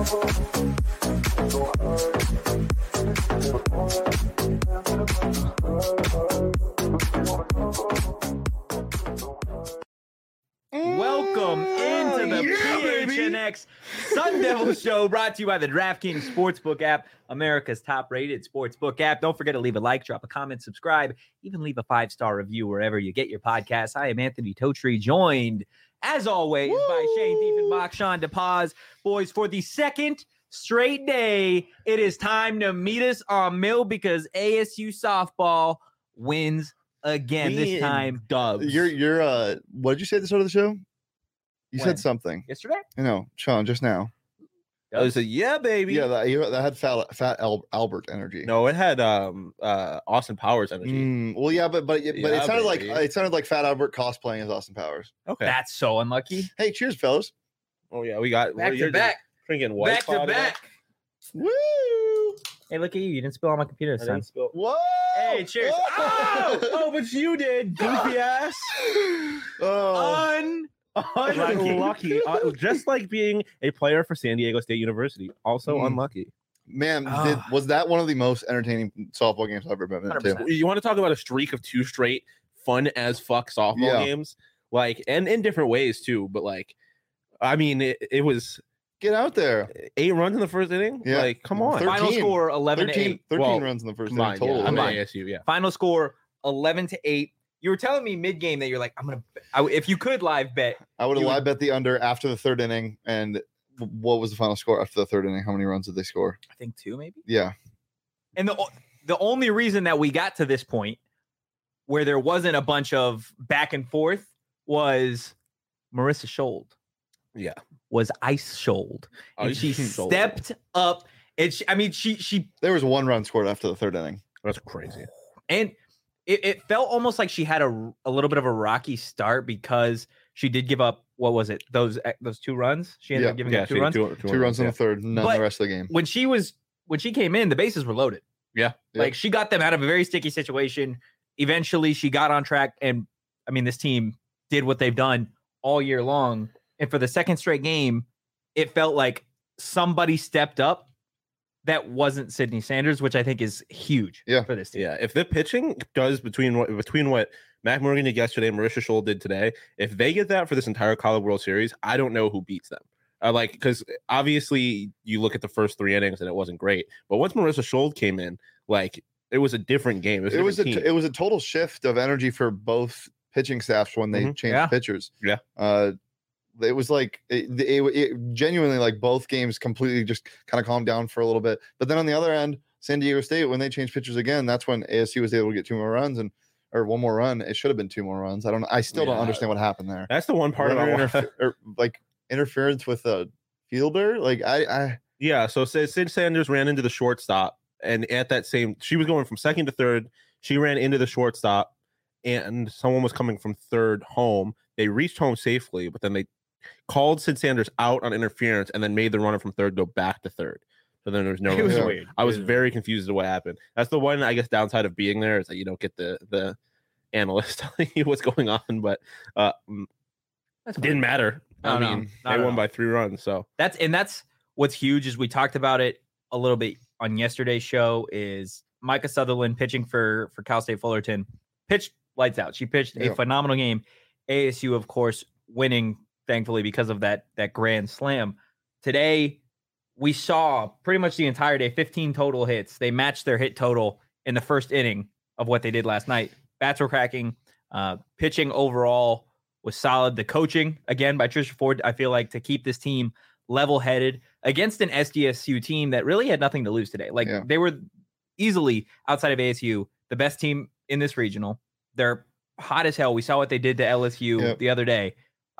Welcome into the PHNX Sun Devil Show, brought to you by the DraftKings Sportsbook app, America's top-rated sportsbook app. Don't forget to leave a like, drop a comment, subscribe, even leave a 5-star review wherever you get your podcasts. I am Anthony Totri, joined, as always, by Shane Diefenbach, Sean DePaz. Boys, for the second straight day, it is time to meet us on Mill because ASU softball wins again. This time, dubs. You're what did you say at the start of the show? You When? said something. Yesterday? No, Sean, just now. I was like, yeah, baby. Yeah, that had fat Albert energy. No, it had Austin Powers energy. Well, yeah, but it Yeah, sounded like Fat Albert cosplaying as Austin Powers. Okay. That's so unlucky. Hey, cheers, fellas. Oh yeah, we got Back to back. Drinking White Back to Claw back. Woo! Hey, look at you. You didn't spill on my computer this time. Whoa! Hey, cheers. Oh, but you did, goofy ass. Oh, Unlucky. Just like being a player for San Diego State University. Also unlucky. man, was that one of the most entertaining softball games I've ever been to? 100%. You want to talk about a streak of 2 straight fun as fuck softball games? Like, and in different ways too, but like, I mean, it was Get out there. 8 runs in the first inning. Yeah. Like, come on. 13. Final score 11-8. 13 runs in the first inning total. I'm Combined. ASU, yeah. Final score 11-8. You were telling me mid-game that you're like, if you could live bet. I would have You would- live bet the under after the third inning. And what was the final score after the third inning? How many runs did they score? I think 2 maybe. Yeah. And the only reason that we got to this point where there wasn't a bunch of back and forth was Marissa Schold. Yeah. Was ice shouled. And she Schold. stepped up. And she There was 1 run scored after the third inning. That's crazy. and it felt almost like she had a little bit of a rocky start because she did give up, what was it? Those 2 runs? She ended up giving up 2 runs. 2 runs in the third, none But the rest of the game. When she came in, the bases were loaded. Yeah. Like she got them out of a very sticky situation. Eventually she got on track. And I mean, this team did what they've done all year long. And for the second straight game, it felt like somebody stepped up that wasn't Sydney Sanders, which I think is huge for this team. Yeah. If the pitching does between what Mac Morgan did yesterday and Marissa Schold did today, if they get that for this entire College World Series, I don't know who beats them. Because obviously you look at the first 3 innings and it wasn't great. But once Marissa Schold came in, like it was a different game. It was a total shift of energy for both pitching staffs when they changed pitchers. Yeah. It was like it genuinely, like, both games completely just kind of calmed down for a little bit. But then on the other end, San Diego State, when they changed pitchers again, that's when ASU was able to get 2 more runs or 1 more run. It should have been 2 more runs. I still don't understand what happened there. That's the one part about interference with a fielder. So Sid Sanders ran into the shortstop, and at that she was going from second to third. She ran into the shortstop, and someone was coming from third home. They reached home safely, but then they called Sid Sanders out on interference and then made the runner from third go back to third. So then there was no. It was weird. I was very confused as to what happened. That's the one, I guess, downside of being there is that you don't get the analyst telling you what's going on, but didn't matter. No, I no, mean, not they at won all. by 3 runs. So That's what's huge is we talked about it a little bit on yesterday's show is Micah Sutherland pitching for Cal State Fullerton pitched lights out. She pitched a phenomenal game. ASU, of course, winning, thankfully, because of that grand slam. Today, we saw pretty much the entire day, 15 total hits. They matched their hit total in the first inning of what they did last night. Bats were cracking. Pitching overall was solid. The coaching, again, by Trisha Ford, I feel like to keep this team level-headed against an SDSU team that really had nothing to lose today. They were easily, outside of ASU, the best team in this regional. Hot as hell. We saw what they did to LSU the other day.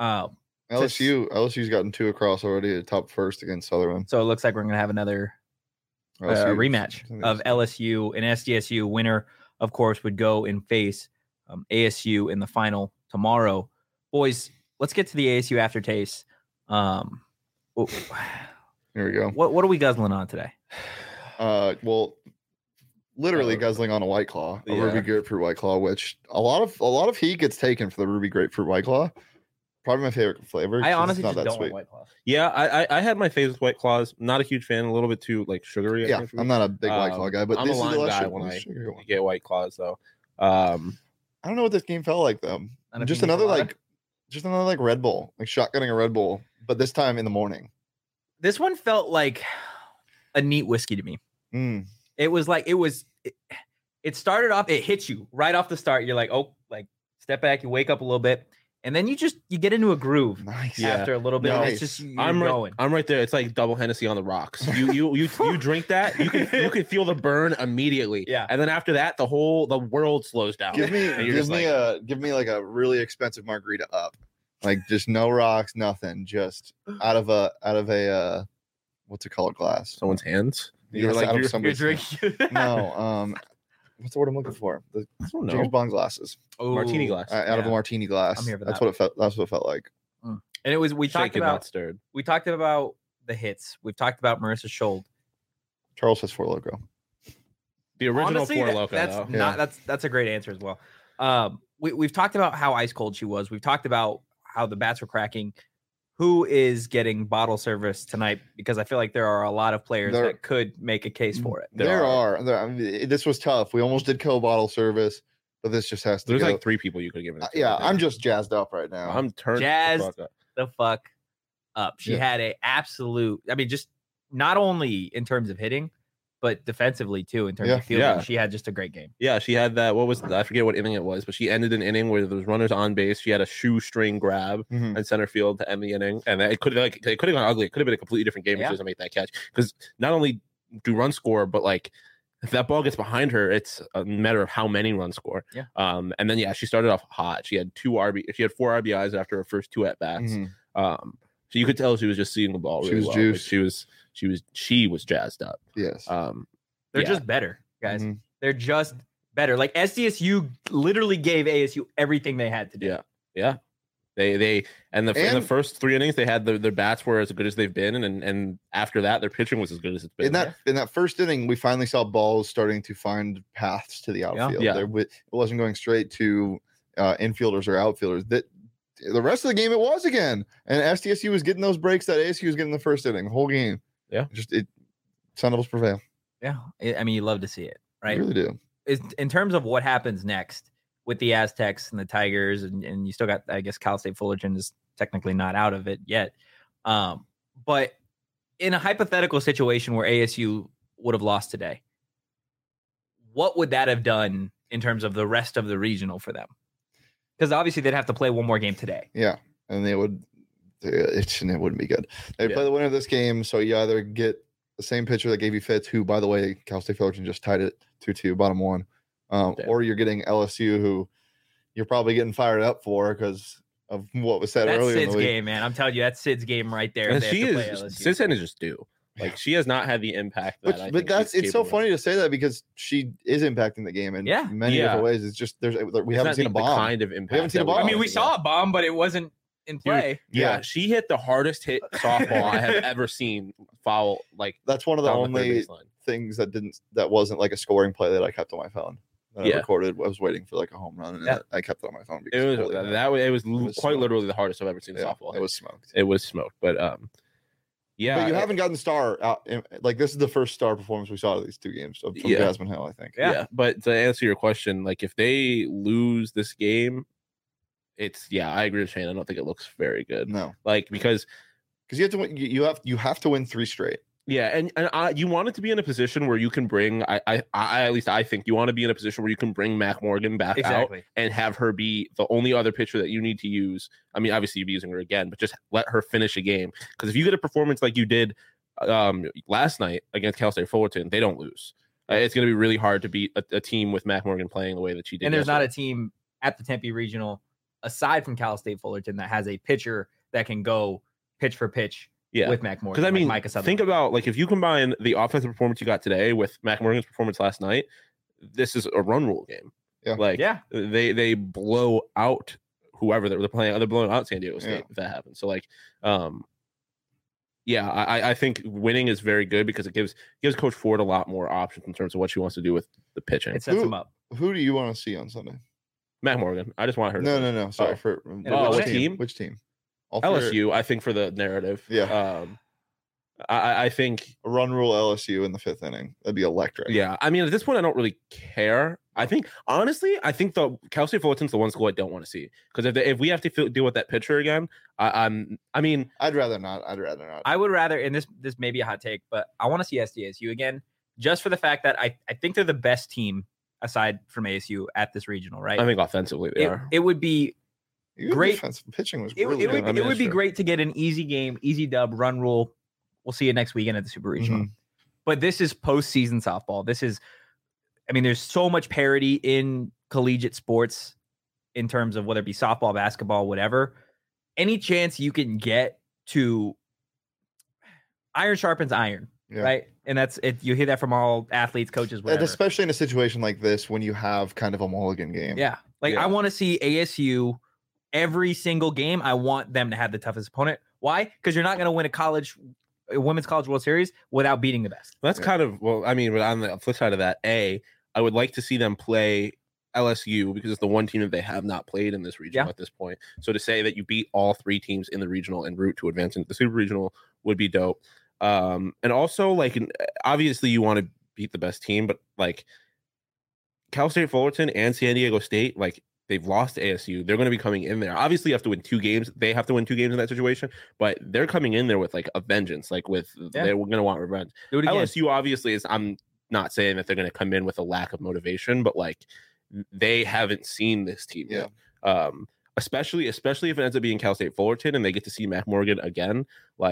LSU's gotten 2 across already at top first against Sutherland. So it looks like we're going to have another rematch of LSU and SDSU. Winner, of course, would go and face ASU in the final tomorrow. Boys, let's get to the ASU aftertaste. Here we go. What are we guzzling on today? Literally guzzling on a White Claw, a Ruby Grapefruit White Claw, which a lot of heat gets taken for the Ruby Grapefruit White Claw. probably my favorite flavor. 'cause I it's honestly not just that don't sweet. like White Claw. Yeah, I had my favorite White Claws. Not a huge fan. A little bit too like sugary. I Yeah, think, for me. I'm not a big White Claw guy, but I'm this a is lime the less guy sugar- when less I sugary one. get White Claws though. I don't know what this game felt like though. Not a Just pina another colada? like Red Bull, like shotgunning a Red Bull, but this time in the morning. This one felt like a neat whiskey to me. Mm. It was like it started off, it hits you right off the start. You're like, oh, like step back, you wake up a little bit, and then you get into a groove Nice. Yeah. after a little bit. And Nice. it's just you're I'm going. right there. It's like double Hennessy on the rocks. You drink that, you can feel the burn immediately. Yeah. And then after that, the world slows down. Give me And you're just give me like a really expensive margarita up. Like just no rocks, nothing. Just out of a what's it called, glass. someone's hands. You were like You're somebody's drinking. no, what's the word I'm looking for? The I don't know. James Bond glasses. Martini Ooh. glass. Out of a Yeah. martini glass. I'm here for That's that. what it felt. That's what it felt like. And it was we talked Shaken, not about stirred. the hits. We've talked about Marissa Schold. Charles has Four Loko. The original Honestly, Four that- Loko. that's though. not that's a great answer as well. We've talked about how ice cold she was. We've talked about how the bats were cracking. Who is getting bottle service tonight? Because I feel like there are a lot of players There- that could make a case for it. There are. I mean, this was tough. We almost did co-bottle service, but this just has to There's go. like 3 people you could give it. to, Yeah, I think. I'm just jazzed up right now. I'm turned the Jazzed. fuck up. The fuck up. She Yeah. had a absolute. I mean, just not only in terms of hitting, but defensively too. In terms Yeah. of fielding, Yeah. she had just a great game. Yeah, she had that. What was I forget what inning it was, but she ended an inning where there was runners on base. She had a shoestring grab Mhm. in center field to end the inning, and it could have gone ugly. It could have been a completely different game if Yeah. she doesn't make that catch. Because not only do runs score, but like if that ball gets behind her, it's a matter of how many runs score. Yeah. And then she started off hot. She had 4 RBIs after her first 2 at bats. Mhm. So you could tell she was just seeing the ball She really was well. juiced. Like she was jazzed up. Yes. They're Yeah. just better, guys. Mhm. They're just better. Like SDSU literally gave ASU everything they had to do. Yeah. Yeah. They in the And- first 3 innings they had their bats were as good as they've been, and after that their pitching was as good as it's been. In that first inning, we finally saw balls starting to find paths to the outfield. Yeah. It wasn't going straight to infielders or outfielders. That the rest of the game it was again, and SDSU was getting those breaks that ASU was getting in the first inning, the whole game. Yeah. Sun Devils prevail. Yeah. I mean, you love to see it, I right? really do. In terms of what happens next with the Aztecs and the Tigers, and you still got, I guess, Cal State Fullerton is technically not out of it yet. But in a hypothetical situation where ASU would have lost today, what would that have done in terms of the rest of the regional for them? Because obviously they'd have to play one more game today. Yeah, and it wouldn't be good. They'd Yeah. play the winner of this game, so you either get the same pitcher that gave you fits, who, by the way, Cal State Fullerton just tied it 2-2, bottom one, or you're getting LSU, who you're probably getting fired up for because of what was said That's earlier in Sid's the week. game, man. I'm telling you, that's Sid's game right there. if And they have she to play is LSU. Cincinnati is just due. Like she has not had the impact that I But think that's she's it's so capable of. funny to say that because she is impacting the game in Yeah. many Yeah. different ways. It's just we It's haven't not seen a the bomb. kind of impact. seen a that bomb. I mean, we want. saw a bomb, but it wasn't in play. Yeah, Yeah. she hit the hardest hit softball I have ever seen foul. Like That's one of the down the third only baseline. things that wasn't like a scoring play that I kept on my phone. That I Yeah. recorded. I was waiting for like a home run, and Yeah. I kept it on my phone. It because was holy that way. It was, was quite smoked. literally the hardest I've ever seen a yeah, softball. it was smoked. It was smoked, but yeah. But you haven't gotten the star out. Like this is the first star performance we saw of these 2 games from Yeah. Jasmine Hill. I think. Yeah. But to answer your question, like if they lose this game, I agree with Shane. I don't think it looks very good. No, Like because because you have to win. You have to win 3 straight. yeah, and you want it to be in a position where you can bring. I at least I think you want to be in a position where you can bring Mac Morgan back out Exactly. and have her be the only other pitcher that you need to use. I mean, obviously you'd be using her again, but just let her finish a game. Because if you get a performance like you did last night against Cal State Fullerton, they don't lose. It's going to be really hard to beat a team with Mac Morgan playing the way that she did. And there's not yesterday. a team at the Tempe Regional, aside from Cal State Fullerton, that has a pitcher that can go pitch for pitch with Mac Morgan. Because I mean, like Micah Sutherland. think about like if you combine the offensive performance you got today with Mac Morgan's performance last night, this is a run rule game. Yeah. Like Yeah. they blow out whoever they're playing. They're blowing out San Diego State Yeah. if that happens. So like, I think winning is very good because it gives Coach Ford a lot more options in terms of what she wants to do with the pitching. it sets Who- him up. Who do you want to see on Sunday? Mac Morgan. I just want her. To No. Sorry Oh. for Oh, what which team? Which team? All three LSU, I think, for the narrative. Yeah. I think a run rule LSU in the 5th inning. That'd be electric. Yeah, I mean, at this point, I don't really care. I think, honestly, the Cal State Fullerton's the one school I don't want to see, because if we have to deal with that pitcher again, I mean, I'd rather not. I would rather, and this may be a hot take, but I want to see SDSU again, just for the fact that I think they're the best team aside from ASU at this regional, right? I think offensively they are. It would be great. Defensive pitching was It really good. would be great to get an easy game, easy dub, run rule. We'll see you next weekend at the Super Regional. But this is postseason softball. There's so much parity in collegiate sports in terms of whether it be softball, basketball, whatever. Any chance you can get to iron sharpens iron, right? And that's it. You hear that from all athletes, coaches, whatever. And especially in a situation like this when you have kind of a mulligan game. Yeah. I want to see ASU every single game. I want them to have the toughest opponent. Why? Because you're not going to win a women's college World Series without beating the best. That's kind of, well, I mean, on the flip side of that, I would like to see them play LSU, because it's the one team that they have not played in this regional at this point. So to say that you beat all 3 teams in the regional en route to advance into the Super Regional would be dope. And also, obviously you want to beat the best team, but Cal State Fullerton and San Diego State, they've lost to ASU. They're going to be coming in there. Obviously, you have to win 2 games. They have to win 2 games in that situation, but they're coming in there with a vengeance. They're going to want revenge. LSU obviously is. I'm not saying that they're going to come in with a lack of motivation, but they haven't seen this team yet. Especially if it ends up being Cal State Fullerton and they get to see Mac Morgan again.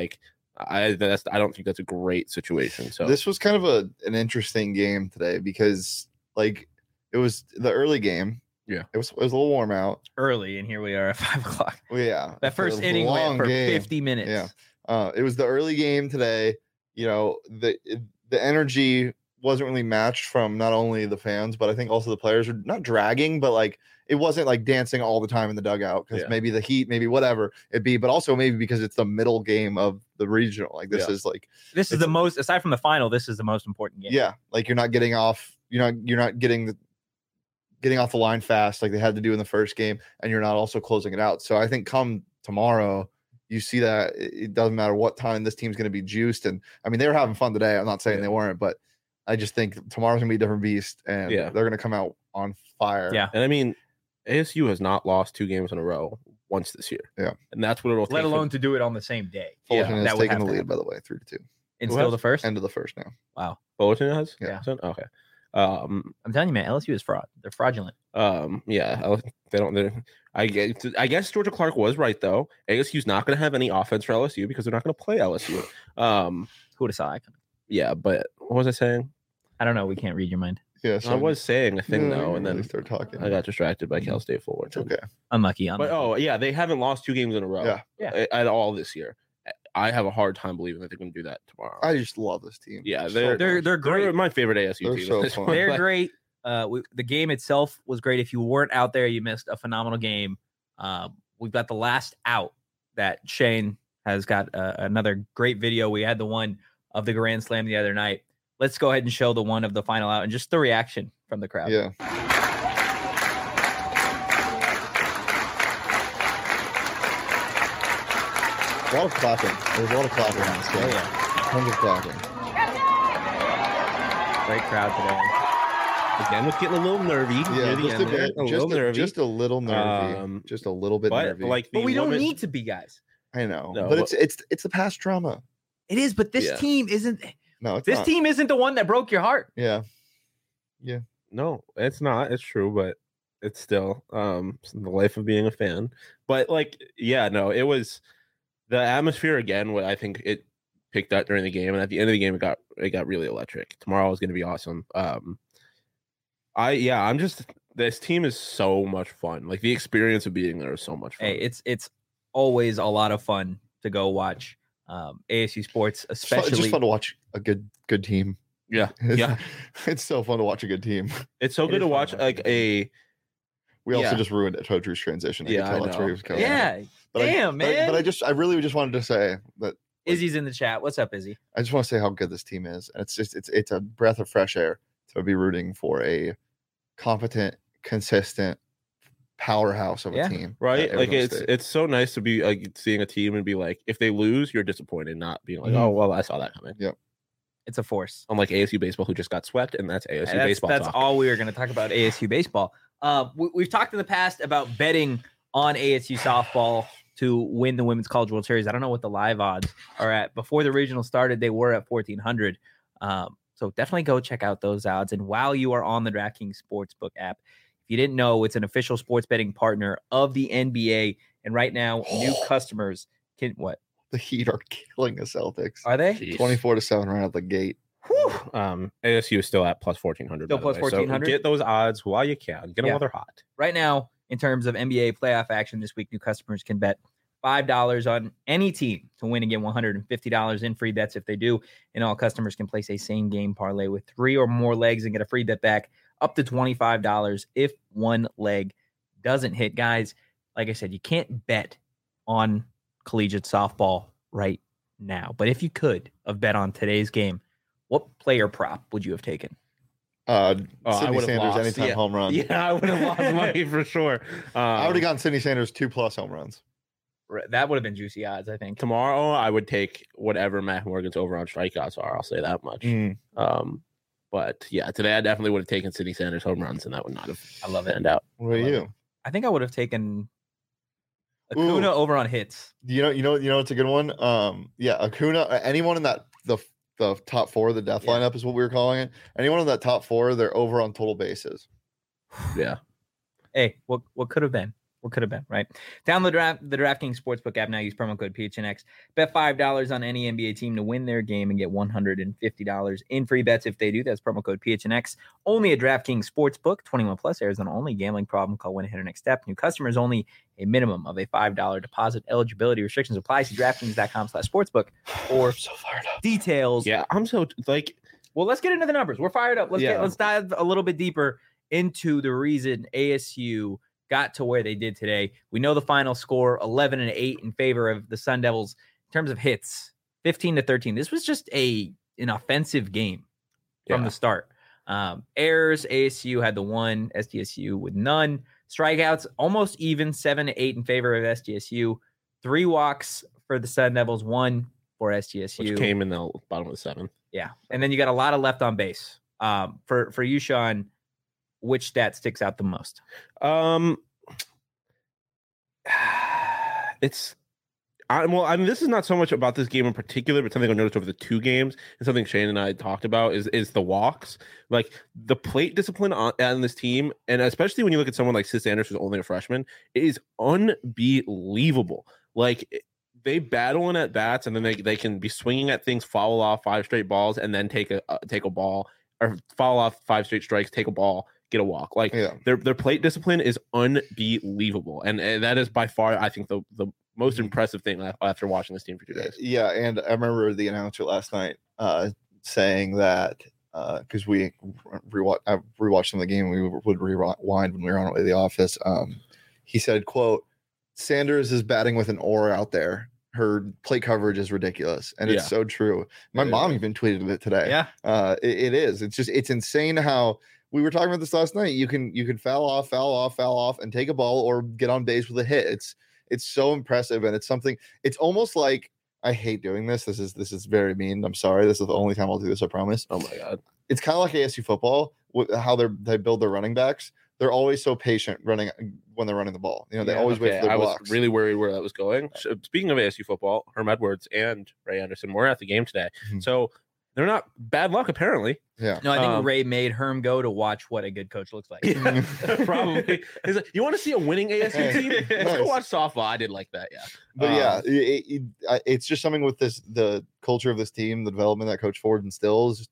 I don't think that's a great situation. So this was kind of an interesting game today, because it was the early game. Yeah, it was a little warm out early, and here we are at 5 o'clock. Well, yeah, that first inning went for 50 minutes. Yeah, it was the early game today. The energy wasn't really matched from not only the fans, but I think also the players were not dragging, but it wasn't dancing all the time in the dugout, because maybe the heat, maybe whatever it be, but also maybe because it's the middle game of the regional. This is the most, aside from the final, this is the most important game. Yeah, you're not getting off. You're not getting off the line fast like they had to do in the first game, and you're not also closing it out. So I think come tomorrow, you see that it doesn't matter what time this team's going to be juiced. And I mean, they were having fun today. I'm not saying they weren't, but I just think tomorrow's going to be a different beast, and they're going to come out on fire. Yeah. And I mean, ASU has not lost 2 games in a row once this year. Yeah. And that's what it'll take. Let alone to do it on the same day. Fullerton has taken the lead, by the way, 3-2. And still the first? End of the first now. Wow. Fullerton has? Yeah. Okay. I'm telling you, man, LSU is fraud. They're fraudulent. They don't. I guess Georgia Clark was right though. ASU's not going to have any offense for LSU because they're not going to play LSU. Who would have saw? Yeah, but what was I saying? I don't know. We can't read your mind. Yeah, I was saying a thing though, and then start talking. I got distracted by Cal State Fullerton. Okay, unlucky. But they haven't lost 2 games in a row. Yeah. At all this year. I have a hard time believing that they're going to do that tomorrow. I just love this team. Yeah, they're great. They're my favorite ASU team. So fun. They're great. The game itself was great. If you weren't out there, you missed a phenomenal game. We've got the last out that Shane has got another great video. We had the one of the Grand Slam the other night. Let's go ahead and show the one of the final out and just the reaction from the crowd. Yeah. A lot of clapping. There's a lot of clapping in this game. Oh, yeah. Tons of clapping. Great crowd today. Again, was getting a little nervy near the end there. Just a little nervy. Just a little bit nervy. But we don't need to be, guys. I know. No, but it's the past trauma. It is, but this team isn't. No, it's this not. Team isn't the one that broke your heart. Yeah. Yeah. No, it's not. It's true, but it's still the life of being a fan. But it was the atmosphere again. What I think it picked up during the game, and at the end of the game, it got really electric. Tomorrow is going to be awesome. This team is so much fun. The experience of being there is so much fun. Hey, it's always a lot of fun to go watch ASU sports, especially. It's just fun to watch a good team. Yeah, It's so fun to watch a good team. It's so good to watch We also just ruined Totru's transition. I know. That's where he was coming. Yeah, man. But I really just wanted to say that Izzy's in the chat. What's up, Izzy? I just want to say how good this team is. And it's a breath of fresh air to be rooting for a competent, consistent, powerhouse of a team, right? at Like Arizona State. it's so nice to be like seeing a team and be like, if they lose, you're disappointed, not being like, Mhm. oh well, I saw that coming. Yep. It's a force. Unlike ASU baseball, who just got swept, and that's ASU baseball. That's talk. all we were going to talk about ASU baseball. We've talked in the past about betting on ASU softball to win the Women's College World Series. I don't know what the live odds are at. Before the regional started, they were at 1,400. So definitely go check out those odds. And while you are on the DraftKings Sportsbook app, if you didn't know, it's an official sports betting partner of the NBA. And right now, new customers can what? The Heat are killing the Celtics. Are they? Jeez. 24-7 right out the gate. ASU is still at plus 1,400. Still plus 1,400? So get those odds while you can. Get them Yeah. while they're hot. Right now, in terms of NBA playoff action this week, new customers can bet $5 on any team to win and get $150 in free bets if they do. And all customers can place a same game parlay with 3 or more legs and get a free bet back up to $25 if one leg doesn't hit. Guys, like I said, you can't bet on collegiate softball right now. But if you could have bet on today's game, what player prop would you have taken? Sydney would've Sanders lost. anytime Yeah. home run. Yeah, I would have lost money for sure. I would have gotten Sydney Sanders 2+ home runs. That would have been juicy odds, I think. Tomorrow, I would take whatever Matt Morgan's over on strikeouts are. I'll say that much. But yeah, today I definitely would have taken Sydney Sanders home runs, and that would not have. I love it. panned out. What about you? I think I would have taken Acuna over on hits. You know, it's a good one. Yeah, Acuna. Anyone in that the top 4, the death Yeah. lineup is what we were calling it. Anyone in that top 4, they're over on total bases. Yeah. Hey, what could have been? What could have been, right? Download the DraftKings Sportsbook app now. Use promo code PHNX. Bet $5 on any NBA team to win their game and get $150 in free bets if they do. That's promo code PHNX. Only at DraftKings Sportsbook. 21 plus. Arizona only. Gambling problem? Call 1-800-NEXT-STEP. New customers only. A minimum of a $5 deposit. Eligibility restrictions apply. See DraftKings.com/sportsbook or So fired up. details. Yeah, I'm so like. Well, let's get into the numbers. We're fired up. Let's dive a little bit deeper into the reason ASU got to where they did today. We know the final score, 11-8 in favor of the Sun Devils. In terms of hits, 15-13. This was just an offensive game from the start. Errors, ASU had the 1, SDSU with none. Strikeouts, almost even, 7-8 in favor of SDSU. 3 walks for the Sun Devils, 1 for SDSU. Which came in the bottom of the 7th. Yeah. And then you got a lot of left on base. For you, Sean, which stat sticks out the most? This is not so much about this game in particular, but something I noticed over the 2 games and something Shane and I talked about is the walks. Like the plate discipline on this team, and especially when you look at someone like Sis Sanders, who's only a freshman, it is unbelievable. Like they battle in at bats, and then they can be swinging at things, foul off 5 straight balls, and then take a ball, or foul off 5 straight strikes, take a ball, get a walk. Like their plate discipline is unbelievable, and that is by far, I think, the most impressive thing after watching this team for 2 days. Yeah, and I remember the announcer last night saying that because I rewatched some of the game, we would rewind when we were on our way to the office. He said, "quote Sanders is batting with an aura out there. Her plate coverage is ridiculous," and it's so true. My mom even tweeted it today. Yeah, it is. It's insane how. We were talking about this last night. You can foul off, and take a ball or get on base with a hit. It's so impressive, and it's something. It's almost like I hate doing this. This is very mean. I'm sorry. This is the only time I'll do this. I promise. Oh my god. It's kind of like ASU football. How they build their running backs. They're always so patient running when they're running the ball. You know, they always wait for their blocks. I was really worried where that was going. So, speaking of ASU football, Herm Edwards and Ray Anderson were at the game today, so they're not bad luck apparently. Yeah. No, I think Ray made Herm go to watch what a good coach looks like. Yeah, probably. He's like, you want to see a winning ASU team? Let's go watch softball. I did like that. Yeah. But it's just something with the culture of this team, the development that Coach Ford instills.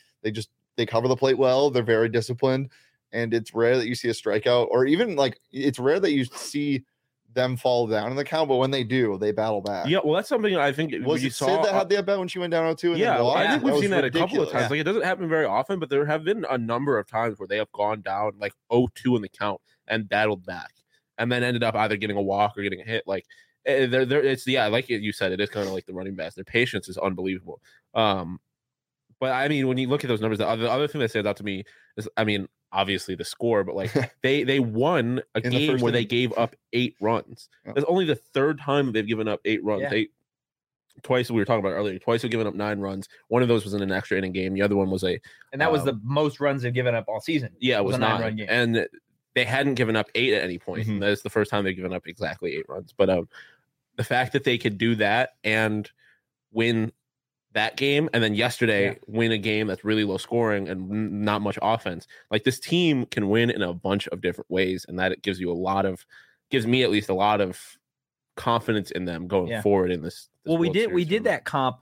They cover the plate well. They're very disciplined, and it's rare that you see a strikeout, or even like it's rare that you see them fall down in the count, but when they do, they battle back. Yeah, well, that's something I think was it Sid that had the at bat when she went down 0-2? Yeah, I think we've seen that ridiculous. a couple of times. Like it doesn't happen very often, but there have been a number of times where they have gone down like 0-2 in the count and battled back, and then ended up either getting a walk or getting a hit. Like it's like you said, it is kind of like the running backs. Their patience is unbelievable. But I mean, when you look at those numbers, the other thing that stands out to me is, I mean, obviously the score, but like they won a In the game first where they inning. gave up 8 runs. Yeah. That's only the third time they've given up 8 runs. Yeah. Twice we were talking about earlier. Twice they've given up 9 runs. One of those was in an extra inning game. The other one was And that was the most runs they've given up all season. it was a 9 9-run game. And they hadn't given up 8 at any point. Mhm. And that is the first time they've given up exactly 8 runs. But the fact that they could do that and win that game, and then yesterday win a game that's really low scoring and not much offense. Like, this team can win in a bunch of different ways, and that it gives me at least a lot of confidence in them going forward in this. Well, we World did Series tournament. that comp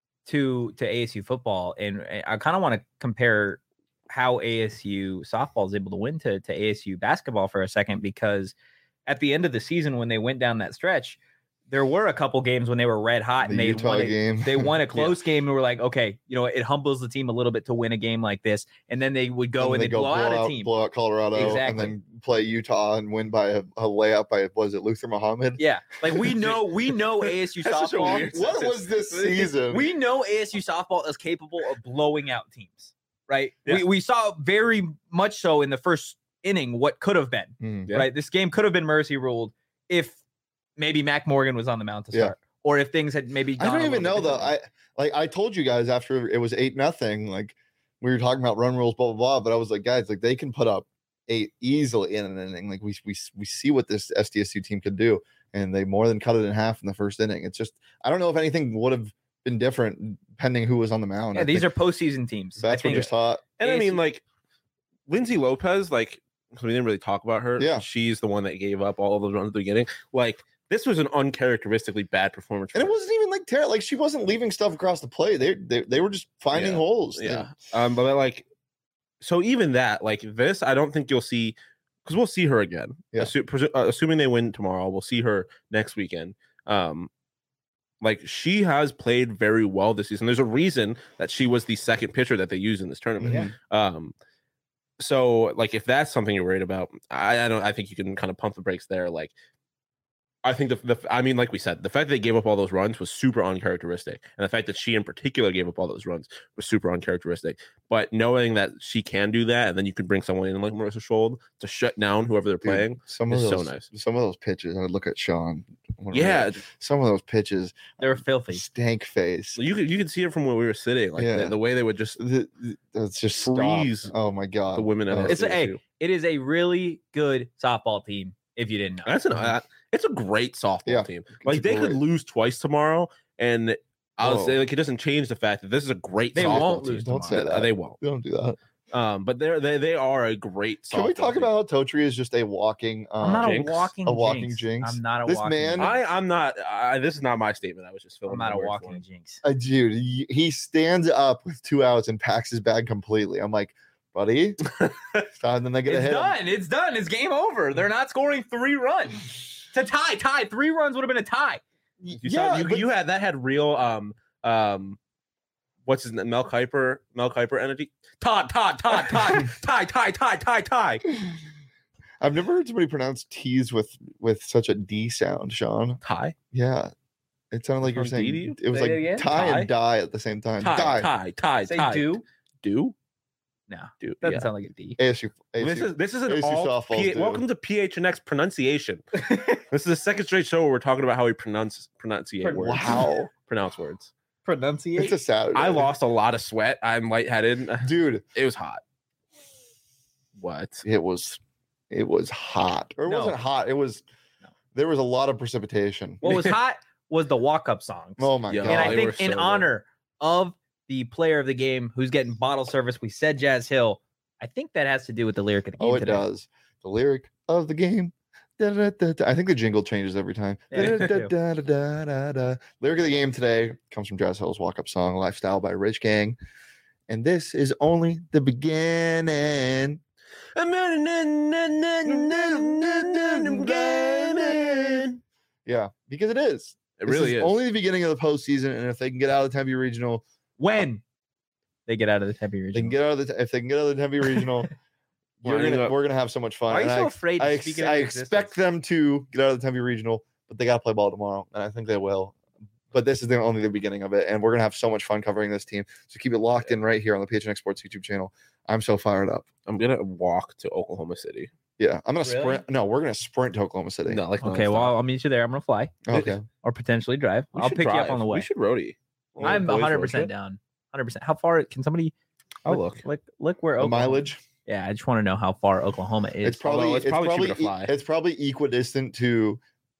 to ASU football, and I kind of want to compare how ASU softball is able to win to ASU basketball for a second, because at the end of the season when they went down that stretch, there were a couple games when they were red hot and they won a close game and were like, okay, it humbles the team a little bit to win a game like this. And then they would go and they'd blow out a team. Blow out Colorado and then play Utah and win by a layup by, was it Luther Muhammad? Yeah. Like we know ASU softball. What was this season? We know ASU softball is capable of blowing out teams, right? Yeah. We saw very much so in the first inning what could have been, right? This game could have been mercy ruled if maybe Mac Morgan was on the mound to start, or if things had maybe gone I don't even know though. I told you guys after it was 8-0, like we were talking about run rules, blah blah blah. But I was like, guys, like they can put up 8 easily in an inning. Like we see what this SDSU team could do, and they more than cut it in half in the first inning. It's just I don't know if anything would have been different depending who was on the mound. Yeah, these are postseason teams. That's what just taught. And I mean, like Lindsay Lopez, like we didn't really talk about her. Yeah, she's the one that gave up all of those runs at the beginning. Like, this was an uncharacteristically bad performance. And it wasn't even like terrible. Like she wasn't leaving stuff across the play. They were just finding holes. Yeah. But like, so even that, like this, I don't think you'll see, because we'll see her again. Yeah. Assuming they win tomorrow, we'll see her next weekend. Like she has played very well this season. There's a reason that she was the second pitcher that they used in this tournament. Yeah. So like if that's something you're worried about, I think you can kind of pump the brakes there. Like, I think I mean, like we said, the fact that they gave up all those runs was super uncharacteristic. And the fact that she in particular gave up all those runs was super uncharacteristic. But knowing that she can do that, and then you can bring someone in like Marissa Schold to shut down whoever they're playing, some of those, so nice. Some of those pitches, I would look at Sean. Yeah. Some of those pitches, they're filthy. Stank face. You could see it from where we were sitting. Like the way they would just it's just freeze. Stop. Oh my God. The women at it is a really good softball team. If you didn't know, it's a great softball team. Like they could lose twice tomorrow, and I'll say like it doesn't change the fact that this is a great. They won't lose. Don't say that. They won't. Don't do that. But they are a great. Can we talk about how Totri is just a walking? I'm not jinx. a walking jinx. I'm not a walking. Man, I'm not. This is not my statement. I was just filling. I'm not a walking jinx. Dude, he stands up with 2 outs and packs his bag completely. I'm like, buddy, and then they get a hit. It's done. It's game over. They're not scoring 3 runs to tie. 3 runs would have been a tie. You had real what's his name? Mel Kiper energy. Todd. Tie. I've never heard somebody pronounce T's with such a D sound, Sean. Tie? Yeah. It sounded like you're saying it was like tie and die at the same time. Tie. Say tie. Do? No. Do. Doesn't sound like a D. ASU. This is an ASU all welcome to PHNX pronunciation. This is the second straight show where we're talking about how we pronounce words. Wow. Pronounce words. Pronunciate. It's a Saturday. I lost a lot of sweat. I'm lightheaded. Dude. It was hot. What? It was hot. Or it wasn't hot. It was there was a lot of precipitation. What was hot was the walk-up songs. Oh my God. And I think in honor of the player of the game who's getting bottle service, we said Jazz Hill. I think that has to do with the lyric of the game. Oh, it does. The lyric of the game. I think the jingle changes every time. Lyric of the game today comes from Jazz Hill's walk-up song, Lifestyle by Rich Gang. And this is only the beginning. Yeah, because it is. It really is. Only the beginning of the postseason, and if they can get out of the Tempe Regional, when they get out of the Tempe Regional, they can get out of the. If they can get out of the Tempe Regional, we're gonna have so much fun. Are you so afraid? I expect them to get out of the Tempe Regional, but they got to play ball tomorrow, and I think they will. but this is only the beginning of it, and we're gonna have so much fun covering this team. So keep it locked in right here on the PHNX Sports YouTube channel. I'm so fired up. I'm gonna walk to Oklahoma City. Yeah, I'm gonna Really? sprint. No, we're gonna sprint to Oklahoma City. No, like Okay, well, I'll meet you there. I'm gonna fly Okay. or potentially drive. I'll pick you up on the way. We should roadie. I'm Boys road 100% trip. down. 100%. How far can somebody I'll look. look where The Oklahoma, mileage. Yeah, I just want to know how far Oklahoma is. It's probably cheaper to fly. It's probably equidistant to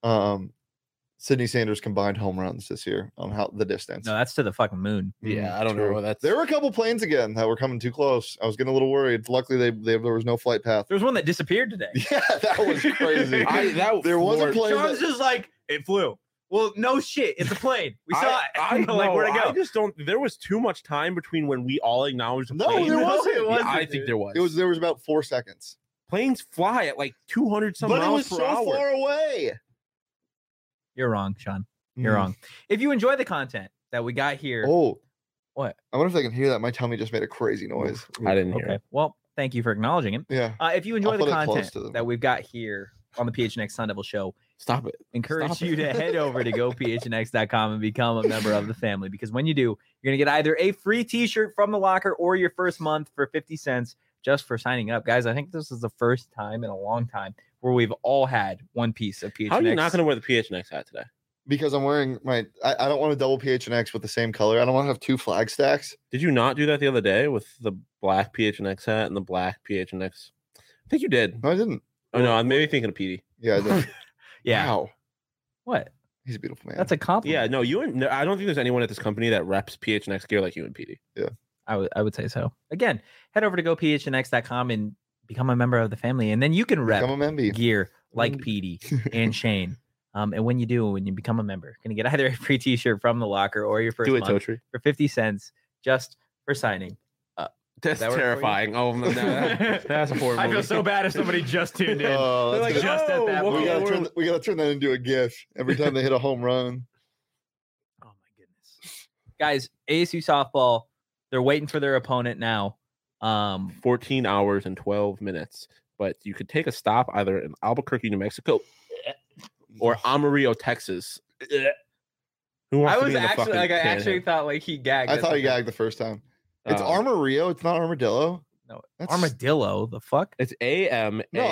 Sydney Sanders combined home runs this year on how the distance. No, that's to the fucking moon. Yeah, I don't True. know. That's There were a couple planes again that were coming too close. I was getting a little worried. Luckily, there was no flight path. There was one that disappeared today. Yeah, that was crazy. There was a plane. Sean's just like, it flew. Well, no shit. It's a plane. We saw it. I We're like, where'd it go? I just don't. There was too much time between when we all acknowledged the No, plane. there wasn't. It wasn't, I dude. think there was. There was about 4 seconds. Planes fly at like 200 some But it miles was per so hour. far away. You're wrong, Sean. You're Mm. wrong. If you enjoy the content that we got here, Oh, what? I wonder if they can hear that. My tummy just made a crazy noise. I didn't hear Okay. it. Well, thank you for acknowledging it. Yeah. If you enjoy I'll the put it close content to them. that we've got here on the PHNX Sun Devil Show, Stop it. encourage Stop you to head over to gophnx.com and become a member of the family, because when you do, you're going to get either a free t-shirt from the locker or your first month for 50 cents just for signing up. Guys, I think this is the first time in a long time where we've all had one piece of PHNX. How are you not going to wear the PHNX hat today? Because I'm wearing I don't want to double PHNX with the same color. I don't want to have 2 flag stacks. Did you not do that the other day with the black PHNX hat and the black PHNX? I think you did. No, I didn't. Oh no, I'm maybe thinking of PD. Yeah, I did. Yeah. Wow. What? He's a beautiful man. That's a compliment. Yeah, no, I don't think there's anyone at this company that reps PHNX gear like you and PD. I would say so. Again, head over to gophnx.com and become a member of the family, and then you can rep Become a member. gear like Mm. Petey and Shane. And when you become a member, you're gonna get either a free t-shirt from the locker or your first Do it, month Totri. for 50 cents just for signing. That's that work for you? terrifying. Oh no, that's a horrible. I feel so bad if somebody just tuned in. Oh, They're that's like, gonna- just at that "Oh, point. we gotta turn that into a GIF every time they hit a home run. Oh my goodness. Guys, ASU softball, they're waiting for their opponent now. 14 hours and 12 minutes. But you could take a stop either in Albuquerque, New Mexico, or Amarillo, Texas. Who wants I to was be in the actually fucking like I panhandle? actually thought like he gagged. I at thought he the- gagged the first time. It's Um, Armadillo. It's not Armadillo. No, That's- armadillo. The fuck? It's AMARILLO. No,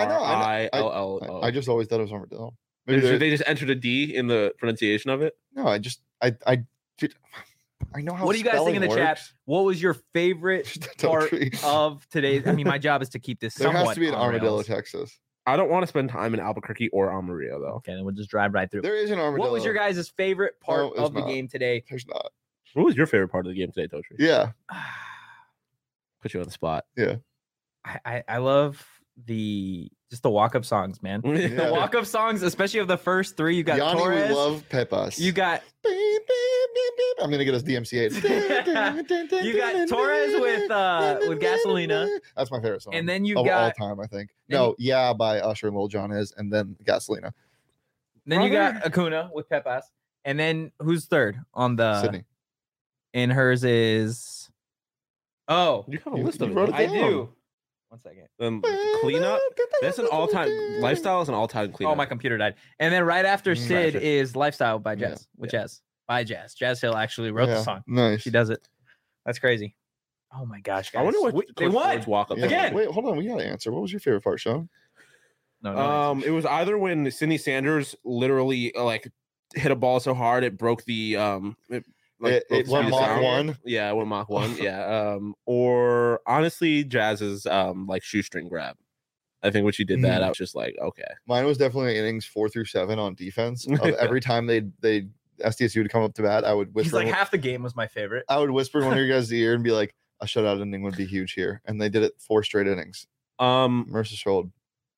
I just always thought it was Armadillo. Maybe They just entered a D in the pronunciation of it. no, I know how. What do you guys think in the spelling chat? works. What was your favorite part Totally. of today's? I mean, my job is to keep this There somewhat has to be an on Armadillo, rails. Texas. I don't want to spend time in Albuquerque or Amarillo though. Okay, then we'll just drive right through. There is an Armadillo. What was your guys' favorite part No, there's of the not. game today? There's not. What was your favorite part of the game today, Totri? Yeah. Put you on the spot. I love the walk-up songs, man. Yeah. The walk-up songs, especially of the first three. You got Yanni Torres. would love Pepas. You got I'm gonna get us DMCA. You got Torres with Gasolina. That's my favorite song. And then you of all got time, I think. then No, yeah, by Usher and Lil Jon is, and then Gasolina. then you got Acuna with Pepas. And then who's third on the Sydney. And hers is You have a You- list you of wrote it. it I down. do. 1 second. Cleanup. That's an all-time lifestyle. Is an all-time cleanup. Oh, my computer died. And then right after Mm, Sid gotcha. is Lifestyle by Yeah, Jazz. With Jazz. By Jazz. Jazz Hill actually wrote the Yeah, song. Nice. She does it. That's crazy. Oh my gosh, guys. I wonder what they won. walk up Yeah. Again. Wait, hold on. We gotta answer. What was your favorite part, Sean? No, It was either when Sydney Sanders literally like hit a ball so hard it broke the It broke the went speed of Mach sound. 1. Yeah, it went Mach 1. Yeah. Or honestly, Jazz's like shoestring grab. I think when she did that, I was just like, okay. Mine was definitely innings 4 through 7 on defense. Of every time they SDSU would come up to bat, I would He's whisper. like half the game was my favorite. I would whisper in one of your guys' ear and be like, "A shutout inning would be huge here," and they did it 4 straight innings. Mercer Strold.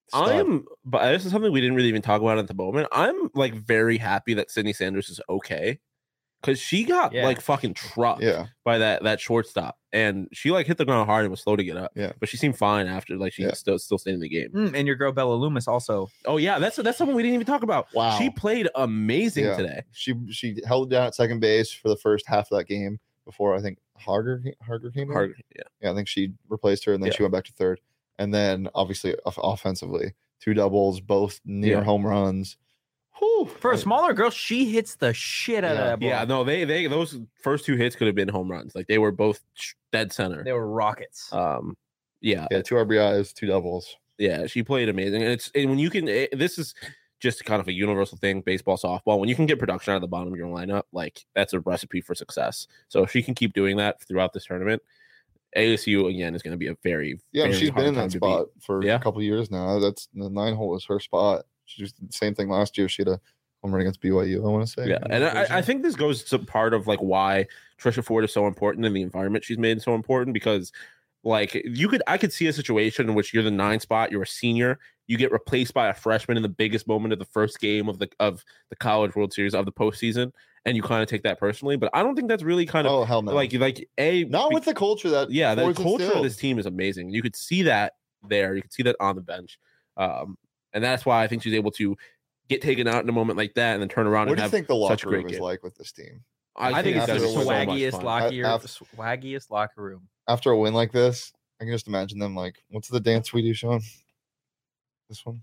But this is something we didn't really even talk about at the moment. I'm like very happy that Sydney Sanders is okay because she got Yeah. like fucking trucked Yeah, by that shortstop, and she like hit the ground hard and was slow to get up. Yeah. But she seemed fine after. Like she Yeah. still stayed in the game. And your girl Bella Loomis also. Oh yeah, that's something we didn't even talk about. Wow. She played amazing Yeah. today. she held it down at second base for the first half of that game before I think Harger came in. Hard, yeah. Yeah, I think she replaced her, and then Yeah. she went back to third. And then obviously offensively, 2 doubles, both near Yeah. home runs. Whew. For a smaller girl, she hits the shit out of that ball. Yeah, no, they those first 2 hits could have been home runs. Like they were both dead center. They were rockets. Yeah, 2 RBIs, 2 doubles. yeah, she played amazing. And when you can, this is just kind of a universal thing, baseball, softball. When you can get production out of the bottom of your lineup, like that's a recipe for success. So if she can keep doing that throughout this tournament, ASU again is going to be a very very she's been hard in time that to spot for Yeah. a couple years now. That's the 9-hole is her spot. She just did the same thing last year. She had a home run against BYU, I want to say. beat. Yeah, and I think this goes to part of like why Trisha Ford is so important and the environment she's made so important, because like I could see a situation in which you're the 9 spot, you're a senior, you get replaced by a freshman in the biggest moment of the first game of the College World Series of the postseason, and you kind of take that personally. But I don't think that's really kind of Oh hell no! like not with the culture that the Ford's culture of instilled. this team is amazing. You could see that there, you could see that on the bench, and that's why I think she's able to get taken out in a moment like that and then turn around What and do you have think the such a locker great room is game. like with this team? I think it's after the it was so much swaggiest fun. swaggiest locker room. After a win like this, I can just imagine them like, what's the dance we do, Sean? This one.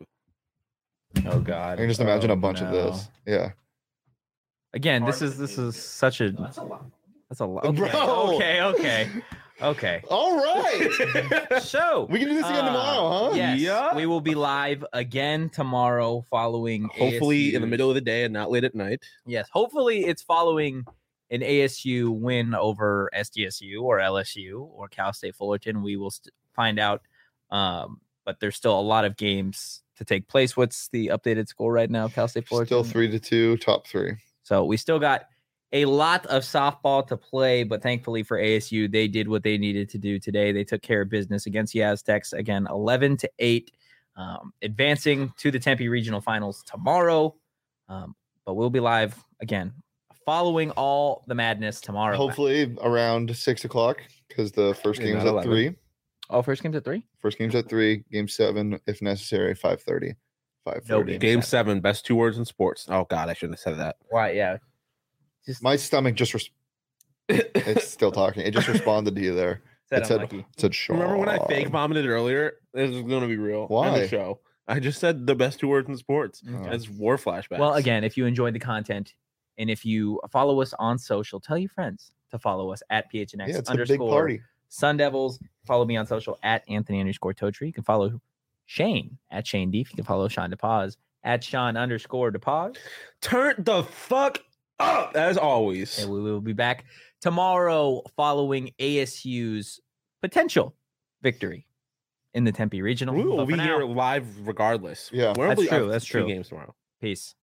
Oh God! I can just imagine Oh, a bunch of no. this. Yeah. Again, this is such a that's a lot. Okay, Bro. okay. All right. So We can do this again tomorrow, huh? Yes, Yeah. we will be live again tomorrow following Hopefully in the ASU's middle of the day and not late at night. Yes, hopefully it's following an ASU win over SDSU or LSU or Cal State Fullerton. We will find out, but there's still a lot of games to take place. What's the updated score right now, Cal State Fullerton? Still 3-2, top 3. So we still got a lot of softball to play, but thankfully for ASU, they did what they needed to do today. They took care of business against the Aztecs again, 11-8, advancing to the Tempe Regional Finals tomorrow. But we'll be live again, following all the madness tomorrow. Hopefully around 6 o'clock because the first Yeah, game's not at 11. 3. Oh, first game's at 3? First game's at 3. Game 7, if necessary, 5:30. 5:30. No game. Game 7, best 2 words in sports. Oh God, I shouldn't have said that. Right, yeah. Just My stomach just it's still talking. It just responded to you there. said It said, unlucky. it said Sean. Remember when I fake vomited earlier? This is going to be real. Why? On the show. I just said the best 2 words in sports. Oh. It's war flashbacks. Well, again, if you enjoyed the content and if you follow us on social, tell your friends to follow us at PHNX Yeah, it's a big party. Sun Devils. Follow me on social at Anthony_Totri. You can follow Shane at Shane Deef. You can follow Sean DePaz at Sean_DePaz. turn the fuck up as always. And we will be back tomorrow following ASU's potential victory in the Tempe Regional. We will But be for here now, live regardless. Yeah. We're That's only true, up that's 2 true. games tomorrow. peace.